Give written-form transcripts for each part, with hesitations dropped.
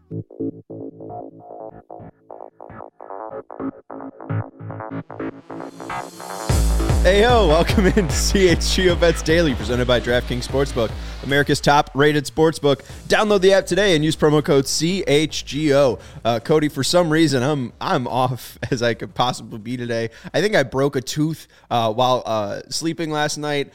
Hey yo, welcome into CHGO Bets Daily, presented by DraftKings Sportsbook, America's top-rated sportsbook. Download the app today and use promo code CHGO. Cody, for some reason, I'm off as I could possibly be today. I think I broke a tooth while sleeping last night.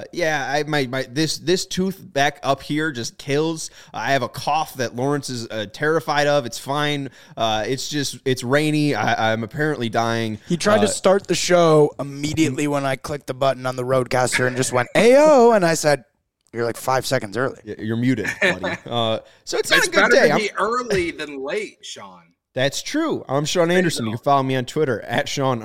This tooth back up here just kills. I have a cough that Lawrence is terrified of. It's fine. It's rainy. I'm apparently dying. He tried to start the show immediately when I clicked the button on the Roadcaster and just went, "Ayo," and I said, "You're like 5 seconds early." You're muted, buddy. So it's not a good better day. to be early than late, Sean. That's true. I'm Sean Anderson. You can follow me on Twitter at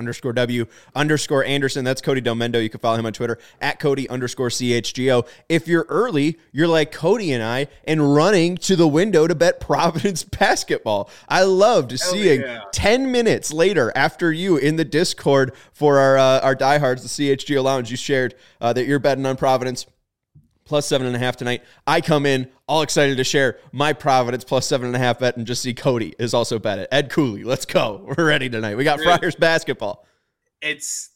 Sean_W_Anderson. That's Cody Delmendo. You can follow him on Twitter at Cody_CHGO. If you're early, you're like Cody and I and running to the window to bet Providence basketball. I loved seeing 10 minutes later after you in the Discord for our diehards, the CHGO Lounge, you shared that you're betting on Providence plus 7.5 tonight. I come in all excited to share my Providence plus 7.5 bet and just see Cody is also bet it. Ed Cooley, let's go. We're ready tonight. We got Friars basketball. It's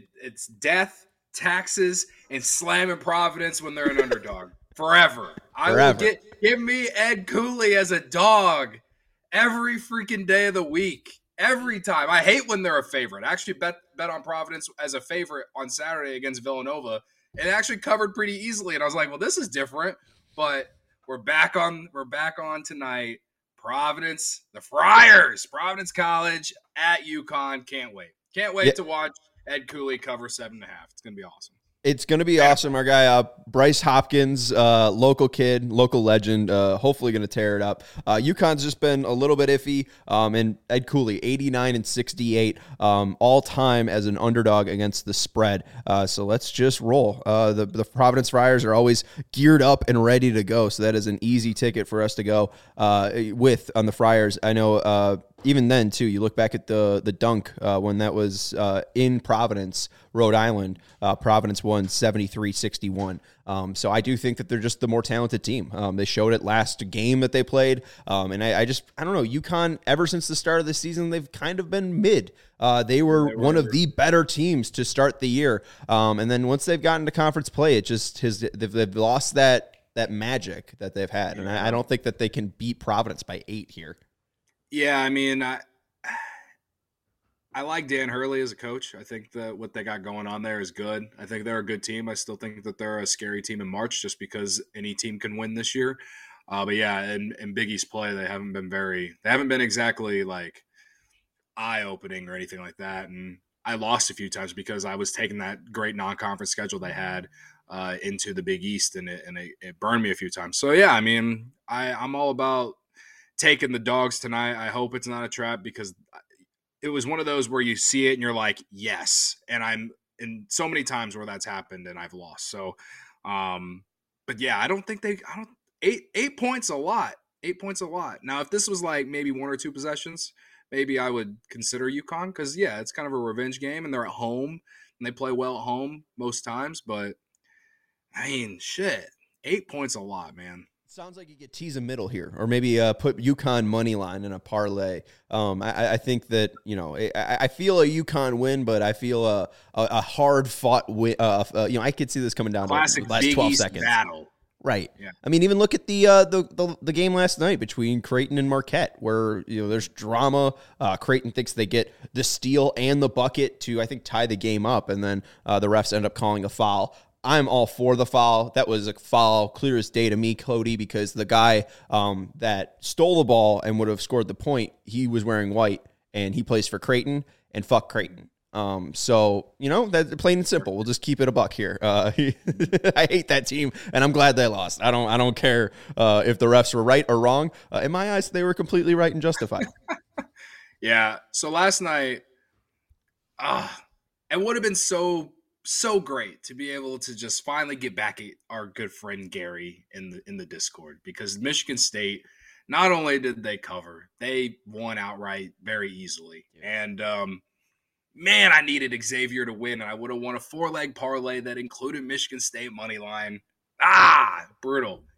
death, taxes, and slamming Providence when they're an underdog. Forever. I will give me Ed Cooley as a dog every freaking day of the week. Every time. I hate when they're a favorite. I actually bet on Providence as a favorite on Saturday against Villanova. It actually covered pretty easily, and I was like, "Well, this is different." But we're back on tonight. Providence, the Friars, Providence College at UConn. Can't wait to watch Ed Cooley cover 7.5. It's gonna be awesome. It's going to be awesome. Our guy, Bryce Hopkins, local kid, local legend, hopefully going to tear it up. UConn's just been a little bit iffy, and Ed Cooley, 89 and 68, all time as an underdog against the spread. So let's just roll. The Providence Friars are always geared up and ready to go, so that is an easy ticket for us to go with on the Friars. I know even then, too, you look back at the dunk when that was in Providence, Rhode Island. Providence won 73-61. So I do think that they're just the more talented team. They showed it last game that they played. And I don't know, UConn, ever since the start of the season, they've kind of been mid. They were one of the better teams to start the year. And then once they've gotten to conference play, it just they've lost that magic that they've had. And I don't think that they can beat Providence by 8 here. Yeah, I mean, I like Dan Hurley as a coach. I think that what they got going on there is good. I think they're a good team. I still think that they're a scary team in March just because any team can win this year. But yeah, in Big East play, they haven't been exactly like eye-opening or anything like that. And I lost a few times because I was taking that great non-conference schedule they had into the Big East, and it burned me a few times. So yeah, I mean, I'm all about taking the dogs tonight. I hope it's not a trap because it was one of those where you see it and you're like, yes. And I'm in so many times where that's happened and I've lost. So, but yeah, I don't think 8 points a lot. 8 points a lot. Now, if this was like maybe 1 or 2 possessions, maybe I would consider UConn because yeah, it's kind of a revenge game and they're at home and they play well at home most times. But I mean, shit, 8 points a lot, man. Sounds like you get tease a middle here, or maybe put UConn money line in a parlay. I think that, you know, I feel a UConn win, but I feel a hard fought win. I could see this coming down Classic to the last Big 12 East seconds. Battle. Right. Yeah. I mean, even look at the game last night between Creighton and Marquette, where there's drama. Creighton thinks they get the steal and the bucket to, I think, tie the game up, and then the refs end up calling a foul. I'm all for the foul. That was a foul, clear as day to me, Cody, because the guy that stole the ball and would have scored the point, he was wearing white, and he plays for Creighton, and fuck Creighton. So, that's plain and simple. We'll just keep it a buck here. I hate that team, and I'm glad they lost. I don't care if the refs were right or wrong. In my eyes, they were completely right and justified. Yeah. So last night, it would have been so great to be able to just finally get back at our good friend Gary in the Discord, because Michigan State, not only did they cover, they won outright very easily. Yeah. And man, I needed Xavier to win, and I would have won a 4-leg parlay that included Michigan State money line. Brutal.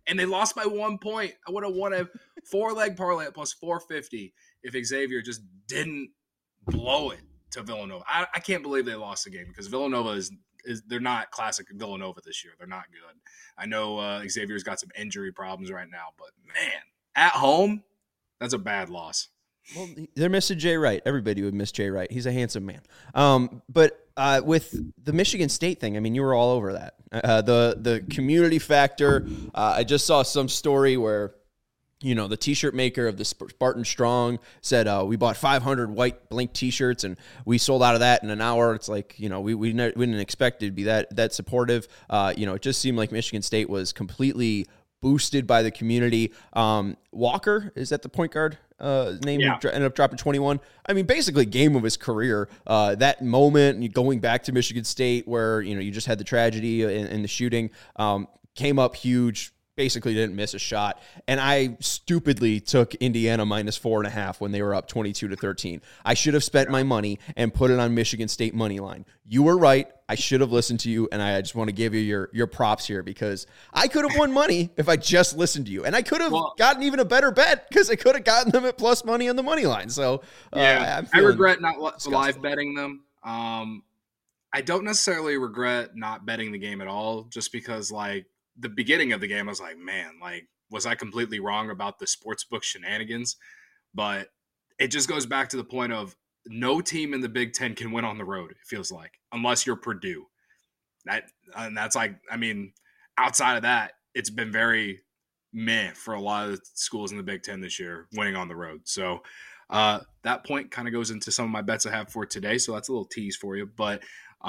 and they lost by 1 point. I would have won a 4-leg parlay at plus 450 if Xavier just didn't blow it to Villanova. I can't believe they lost the game because Villanova is they're not classic Villanova this year. They're not good. I know Xavier's got some injury problems right now, but man, at home, that's a bad loss. Well, they're missing Jay Wright. Everybody would miss Jay Wright. He's a handsome man. But with the Michigan State thing, I mean, you were all over that. The community factor. I just saw some story where, you know, the T-shirt maker of the Spartan Strong said, we bought 500 white blank T-shirts and we sold out of that in an hour. It's like, you know, we didn't expect it to be that supportive. You know, it just seemed like Michigan State was completely boosted by the community. Walker, is that the point guard name? Yeah. Ended up dropping 21. I mean, basically game of his career. That moment going back to Michigan State where, you know, you just had the tragedy in the shooting, came up huge. Basically didn't miss a shot. And I stupidly took Indiana minus 4.5 when they were up 22-13. I should have spent my money and put it on Michigan State money line. You were right. I should have listened to you. And I just want to give you your props here because I could have won money if I just listened to you. And I could have gotten even a better bet because I could have gotten them at plus money on the money line. So I regret not live betting them. I don't necessarily regret not betting the game at all just because like, the beginning of the game, I was like, man, like, was I completely wrong about the sportsbook shenanigans? But it just goes back to the point of no team in the Big Ten can win on the road, it feels like, unless you're Purdue. That's like, I mean, outside of that, it's been very meh for a lot of the schools in the Big Ten this year winning on the road. So that point kind of goes into some of my bets I have for today. So that's a little tease for you. But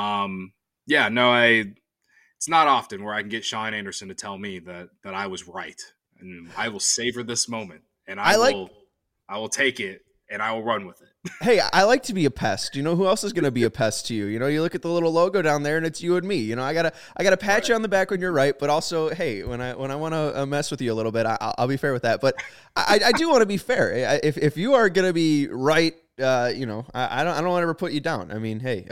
it's not often where I can get Sean Anderson to tell me that I was right, and I will savor this moment, and I will take it, and I will run with it. Hey, I like to be a pest. You know who else is going to be a pest to you? You know, you look at the little logo down there, and it's you and me. You know, I gotta pat you on the back when you're right, but also, hey, when I want to mess with you a little bit, I'll be fair with that. But I do want to be fair. If you are going to be right. You know, I don't want to ever put you down. I mean, hey,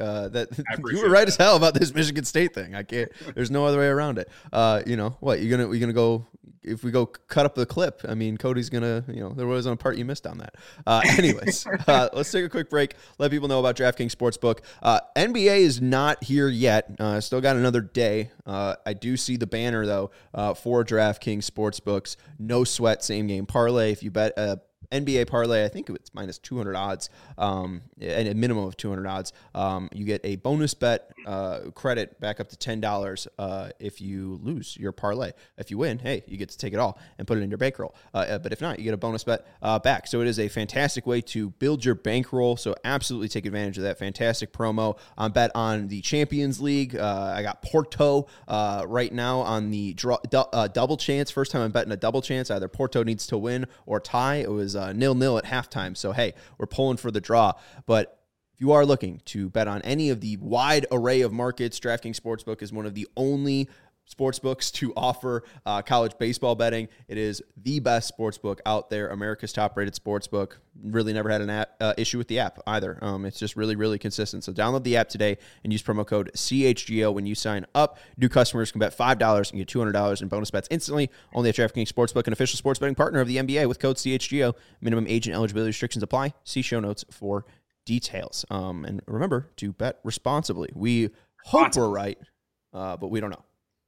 you were right as hell about this Michigan State thing. I can't. There's no other way around it. You know what? You're gonna go if we go cut up the clip. I mean, Cody's gonna. You know, there was a part you missed on that. Anyways, let's take a quick break. Let people know about DraftKings Sportsbook. NBA is not here yet. Still got another day. I do see the banner though for DraftKings Sportsbooks. No sweat, same game parlay. If you bet NBA parlay, I think it's minus 200 odds, and a minimum of 200 odds. You get a bonus bet credit back up to $10 if you lose your parlay. If you win, hey, you get to take it all and put it in your bankroll. But if not, you get a bonus bet back. So it is a fantastic way to build your bankroll. So absolutely take advantage of that fantastic promo. Bet on the Champions League. I got Porto right now on the double chance. First time I'm betting a double chance. Either Porto needs to win or tie. It was 0-0 at halftime. So, hey, we're pulling for the draw. But if you are looking to bet on any of the wide array of markets, DraftKings Sportsbook is one of the only sportsbooks to offer college baseball betting. It is the best sportsbook out there, America's top-rated sportsbook. Really never had an issue with the app either. It's just really, really consistent. So download the app today and use promo code CHGO when you sign up. New customers can bet $5 and get $200 in bonus bets instantly. Only at DraftKings Sportsbook, an official sports betting partner of the NBA with code CHGO. Minimum age and eligibility restrictions apply. See show notes for details. And remember to bet responsibly. We hope we're right, but we don't know.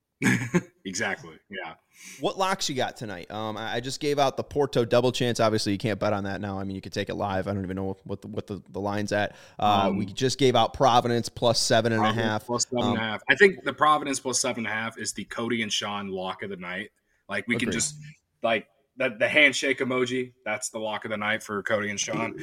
Exactly. Yeah. What locks you got tonight? I just gave out the Porto double chance. Obviously, you can't bet on that now. I mean, you could take it live. I don't even know what the line's at. We just gave out Providence plus 7.5. Plus 7.5. I think the Providence plus 7.5 is the Cody and Sean lock of the night. Like we can just like the handshake emoji. That's the lock of the night for Cody and Sean.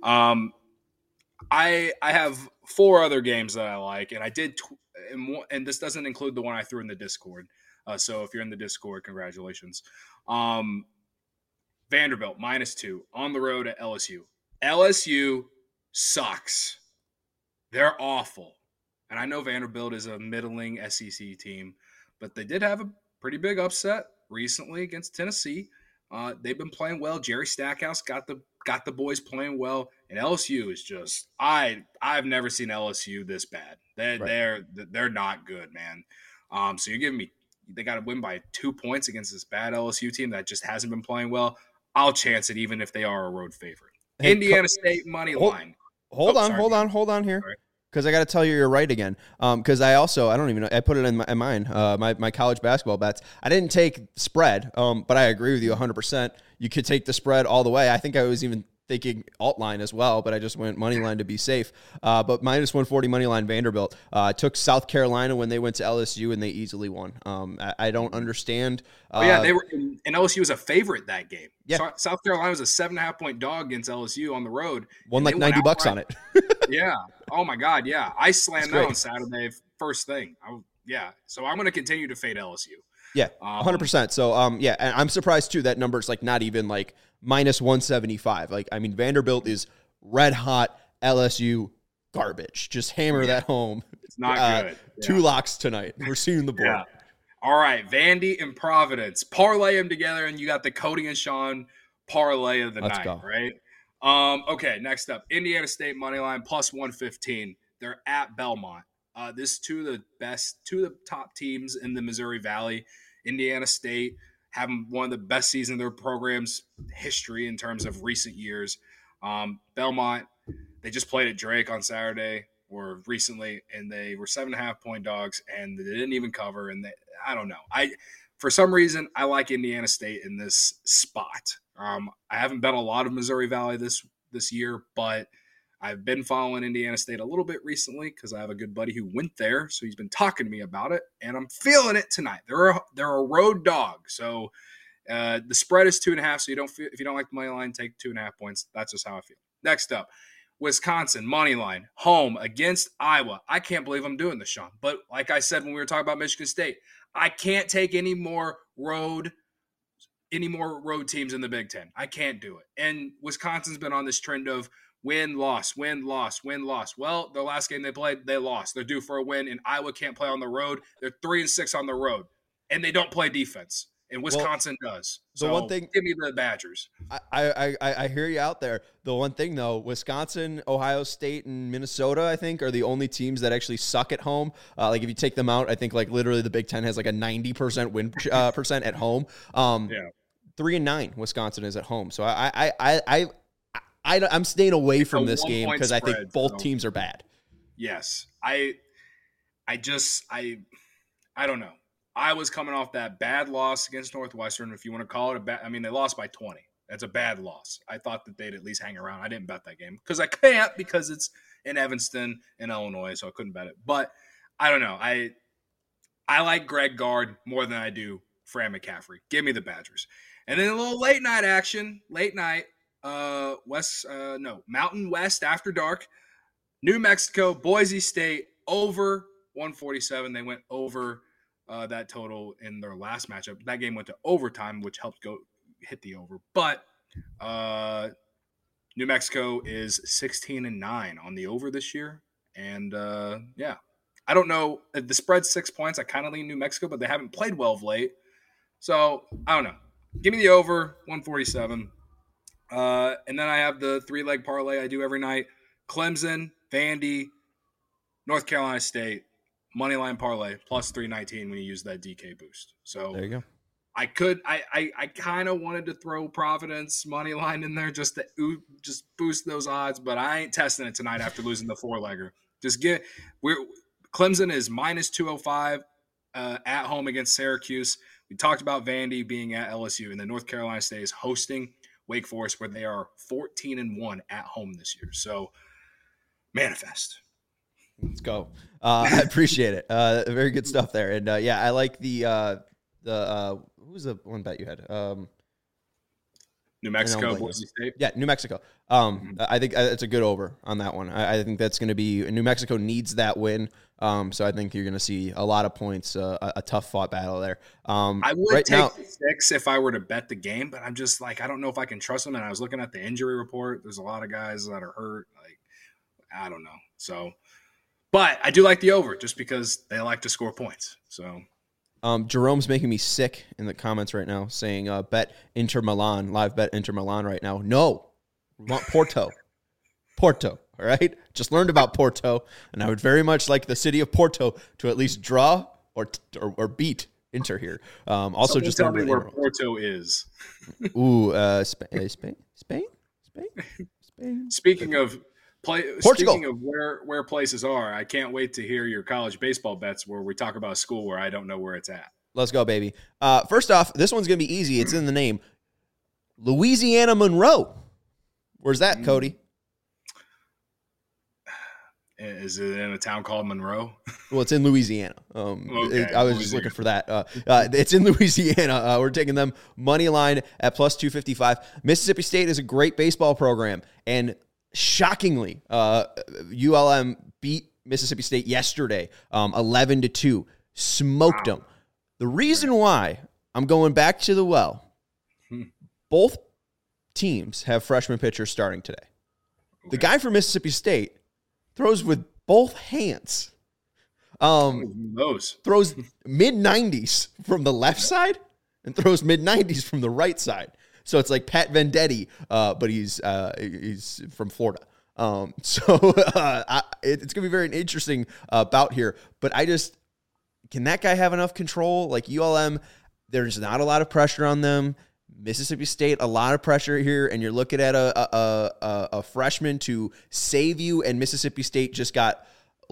I have 4 other games that I like, and I did. And this doesn't include the one I threw in the Discord. So if you're in the Discord, congratulations. Vanderbilt, -2 on the road at LSU. LSU sucks. They're awful. And I know Vanderbilt is a middling SEC team, but they did have a pretty big upset recently against Tennessee. They've been playing well. Jerry Stackhouse got the boys playing well, and LSU is just I've never seen LSU this bad. They're not good, man. So you're giving me they got to win by 2 points against this bad LSU team that just hasn't been playing well. I'll chance it even if they are a road favorite. Hey, Indiana State money line. Hold on here. Sorry. Because I got to tell you, you're right again. Because I don't even know. I put it in mine, my college basketball bets. I didn't take spread, but I agree with you 100%. You could take the spread all the way. I think I was even thinking alt line as well, but I just went money line to be safe. But minus 140 money line Vanderbilt. Took South Carolina when they went to LSU and they easily won. I don't understand. They were, and LSU was a favorite that game. Yeah. South Carolina was a 7.5 point dog against LSU on the road. Won like $90 on it. Yeah. Oh my God. Yeah. I slammed that on Saturday first thing. So I'm going to continue to fade LSU. Yeah, 100%. So, and I'm surprised too that number's like not even like minus 175. Like, I mean, Vanderbilt is red hot, LSU garbage. Just hammer that home. It's not good. Yeah. 2 locks tonight. We're seeing the board. Yeah. All right, Vandy and Providence. Parlay them together, and you got the Cody and Sean parlay of the night, go. right? Okay, next up, Indiana State money line plus 115. They're at Belmont. This is two of the top teams in the Missouri Valley. Indiana State having one of the best seasons of their program's history in terms of recent years. Belmont, they just played at Drake on Saturday or recently, and they were 7.5 point dogs, and they didn't even cover. And I don't know. For some reason, I like Indiana State in this spot. I haven't bet a lot of Missouri Valley this year, but I've been following Indiana State a little bit recently because I have a good buddy who went there, so he's been talking to me about it, and I'm feeling it tonight. They're a road dog, so the spread is 2.5. So if you don't like the money line, take 2.5 points. That's just how I feel. Next up, Wisconsin money line home against Iowa. I can't believe I'm doing this, Sean. But like I said when we were talking about Michigan State, I can't take any more road teams in the Big Ten. I can't do it. And Wisconsin's been on this trend of win, loss, win, loss, win, loss. Well, the last game they played, they lost. They're due for a win, and Iowa can't play on the road. They're 3-6 on the road, and they don't play defense. And Wisconsin does. So one thing, give me the Badgers. I hear you out there. The one thing, though, Wisconsin, Ohio State, and Minnesota, I think, are the only teams that actually suck at home. Like, if you take them out, I think, like, literally the Big Ten has, like, a 90% win percent at home. 3-9, Wisconsin is at home. So I'm staying away from this game because I think both teams are bad. Yes. I don't know. I was coming off that bad loss against Northwestern, if you want to call it a bad. I mean, they lost by 20. That's a bad loss. I thought that they'd at least hang around. I didn't bet that game because I can't, because it's in Evanston in Illinois, so I couldn't bet it. But I don't know. I like Greg Gard more than I do Fran McCaffrey. Give me the Badgers. And then a little late night action. Mountain West after dark. New Mexico, Boise State over 147. They went over that total in their last matchup. That game went to overtime, which helped hit the over. But New Mexico is 16-9 on the over this year. And I don't know. The spread's 6 points. I kind of lean New Mexico, but they haven't played well of late. So I don't know. Give me the over 147. And then I have the 3-leg parlay I do every night. Clemson, Vandy, North Carolina State, moneyline parlay plus 319 when you use that DK boost. So there you go. I kind of wanted to throw Providence moneyline in there just to boost those odds, but I ain't testing it tonight after losing the 4-legger. Clemson is minus 205 at home against Syracuse. We talked about Vandy being at LSU, and then North Carolina State is hosting Wake Forest, where they are 14-1 at home this year. So manifest. Let's go. I appreciate it. Very good stuff there. And I like the who was the one bet you had? New Mexico, Boise State. Yeah, New Mexico. I think it's a good over on that one. I think that's going to be New Mexico needs that win. So I think you're going to see a lot of points, a tough fought battle there. I would take the 6 if I were to bet the game, but I'm just like, I don't know if I can trust them. And I was looking at the injury report. There's a lot of guys that are hurt. Like, I don't know. So, but I do like the over just because they like to score points. So. Jerome's making me sick in the comments right now, saying bet Inter Milan, live bet Inter Milan right now. No, we want Porto. Porto, all right? Just learned about Porto, and I would very much like the city of Porto to at least draw or beat Inter here. Also, Someone just tell learned me about where Inter. Porto is. Ooh, Spain. Speaking of Portugal. speaking of where places are, I can't wait to hear your college baseball bets where we talk about a school where I don't know where it's at. Let's go, baby. First off, this one's gonna be easy. It's in the name. Louisiana Monroe. Where's that, Cody? Is it in a town called Monroe? Well, it's in Louisiana. Okay, I was just looking for that. It's in Louisiana. We're taking them money line at plus 255. Mississippi State is a great baseball program, and shockingly, ULM beat Mississippi State yesterday, 11-2. Smoked them. The reason why I'm going back to the well, both teams have freshman pitchers starting today. Okay. The guy from Mississippi State throws with both hands. Throws mid-90s from the left side and throws mid-90s from the right side. So it's like Pat Venditti, but he's from Florida. It's going to be very interesting bout here. But can that guy have enough control? Like ULM, there's not a lot of pressure on them. Mississippi State, a lot of pressure here, and you're looking at a freshman to save you, and Mississippi State just got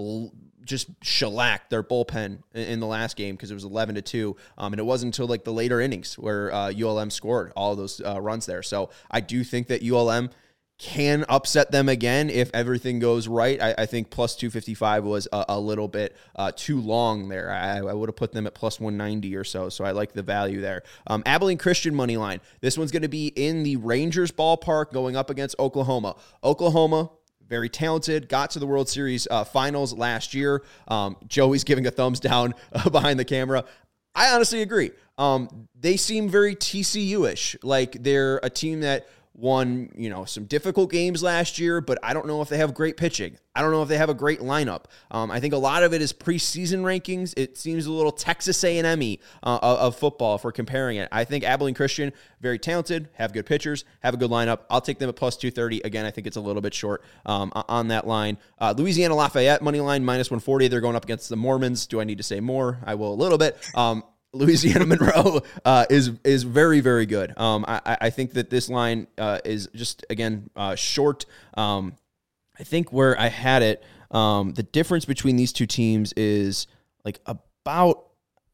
shellacked their bullpen in the last game because it was 11-2, and it wasn't until like the later innings where ULM scored all of those runs there. So I do think that ULM can upset them again if everything goes right. I think plus 255 was a little bit too long there. I would have put them at plus 190 or so, so I like the value there. Abilene Christian money line. This one's going to be in the Rangers ballpark going up against Oklahoma. Oklahoma, very talented, got to the World Series finals last year. Joey's giving a thumbs down behind the camera. I honestly agree. They seem very TCU-ish, like they're a team that won, some difficult games last year, but I don't know if they have great pitching. I don't know if they have a great lineup. I think a lot of it is preseason rankings. It seems a little Texas A&M-y of football if we're comparing it. I think Abilene Christian, very talented, have good pitchers, have a good lineup. I'll take them at plus 230. Again, I think it's a little bit short on that line. Louisiana Lafayette money line, minus 140. They're going up against the Mormons. Do I need to say more? I will a little bit. Louisiana Monroe is very, very good. I think that this line is just, again, short. I think where I had it, the difference between these two teams is like about,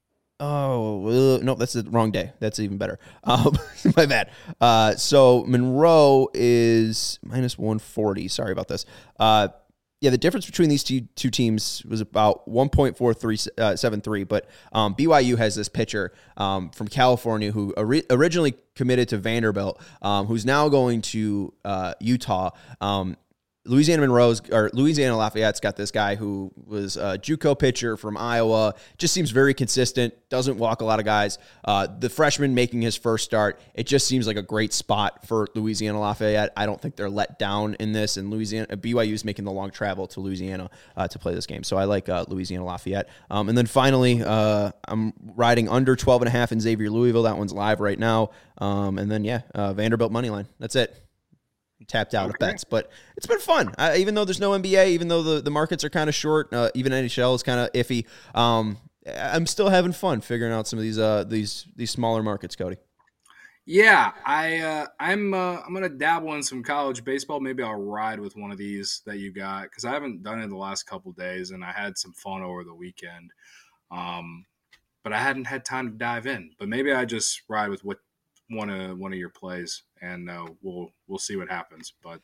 no, that's the wrong day. That's even better. My bad. So Monroe is minus 140. Sorry about this. Yeah, the difference between these two teams was about 1.4373, but BYU has this pitcher from California who originally committed to Vanderbilt, who's now going to Utah. Louisiana Lafayette's got this guy who was a JUCO pitcher from Iowa. Just seems very consistent, doesn't walk a lot of guys. The freshman making his first start, it just seems like a great spot for Louisiana Lafayette. I don't think they're let down in this, and BYU's making the long travel to Louisiana to play this game. So I like Louisiana Lafayette. And then finally, I'm riding under 12.5 in Xavier Louisville. That one's live right now. And then, Vanderbilt money line. That's it. Tapped out of bets, but it's been fun. Even though there's no NBA, even though the markets are kind of short, even NHL is kind of iffy. I'm still having fun figuring out some of these smaller markets, Cody. Yeah, I'm gonna dabble in some college baseball. Maybe I'll ride with one of these that you got because I haven't done it the last couple of days, and I had some fun over the weekend. But I hadn't had time to dive in. But maybe I just ride with one of your plays, and we'll see what happens. But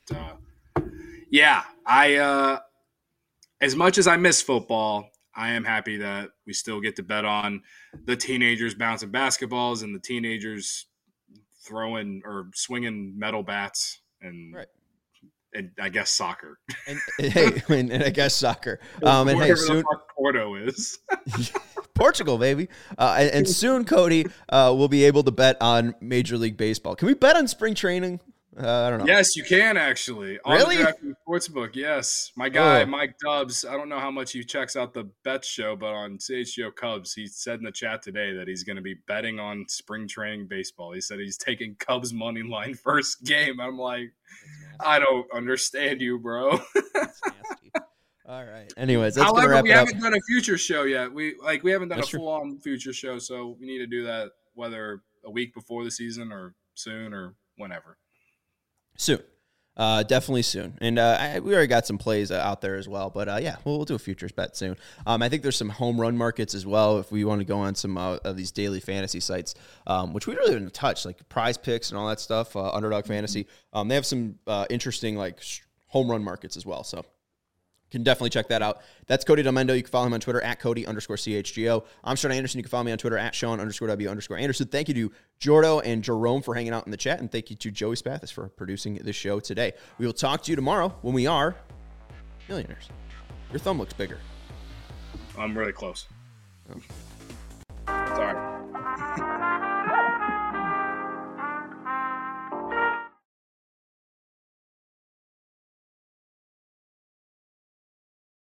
I as much as I miss football, I am happy that we still get to bet on the teenagers bouncing basketballs and the teenagers throwing or swinging metal bats and I guess soccer. And I guess soccer. And hey, soon Porto is. Portugal, baby. And soon, Cody, will be able to bet on Major League Baseball. Can we bet on spring training? I don't know. Yes, you can actually. Really? On the Sportsbook, yes. My guy, Mike Dubs, I don't know how much he checks out the bet show, but on CHGO Cubs, he said in the chat today that he's going to be betting on spring training baseball. He said he's taking Cubs money line first game. I'm like, I don't understand you, bro. That's nasty. All right. Anyways, that's gonna However, wrap we it up. haven't done a future show yet. We haven't done That's a true. full-on future show, so we need to do that whether a week before the season or soon or whenever. Soon. Definitely soon. And we already got some plays out there as well. But yeah, we'll do a futures bet soon. I think there's some home run markets as well if we want to go on some of these daily fantasy sites, which we really didn't touch, like Prize Picks and all that stuff, Underdog Fantasy. They have some interesting like home run markets as well. So can definitely check that out. That's Cody Delmendo. You can follow him on Twitter at Cody_CHGO. I'm Sean Anderson. You can follow me on Twitter at Sean_W_Anderson. Thank you to Jordo and Jerome for hanging out in the chat. And thank you to Joey Spathis for producing the show today. We will talk to you tomorrow when we are millionaires. Your thumb looks bigger. I'm really close. Sorry.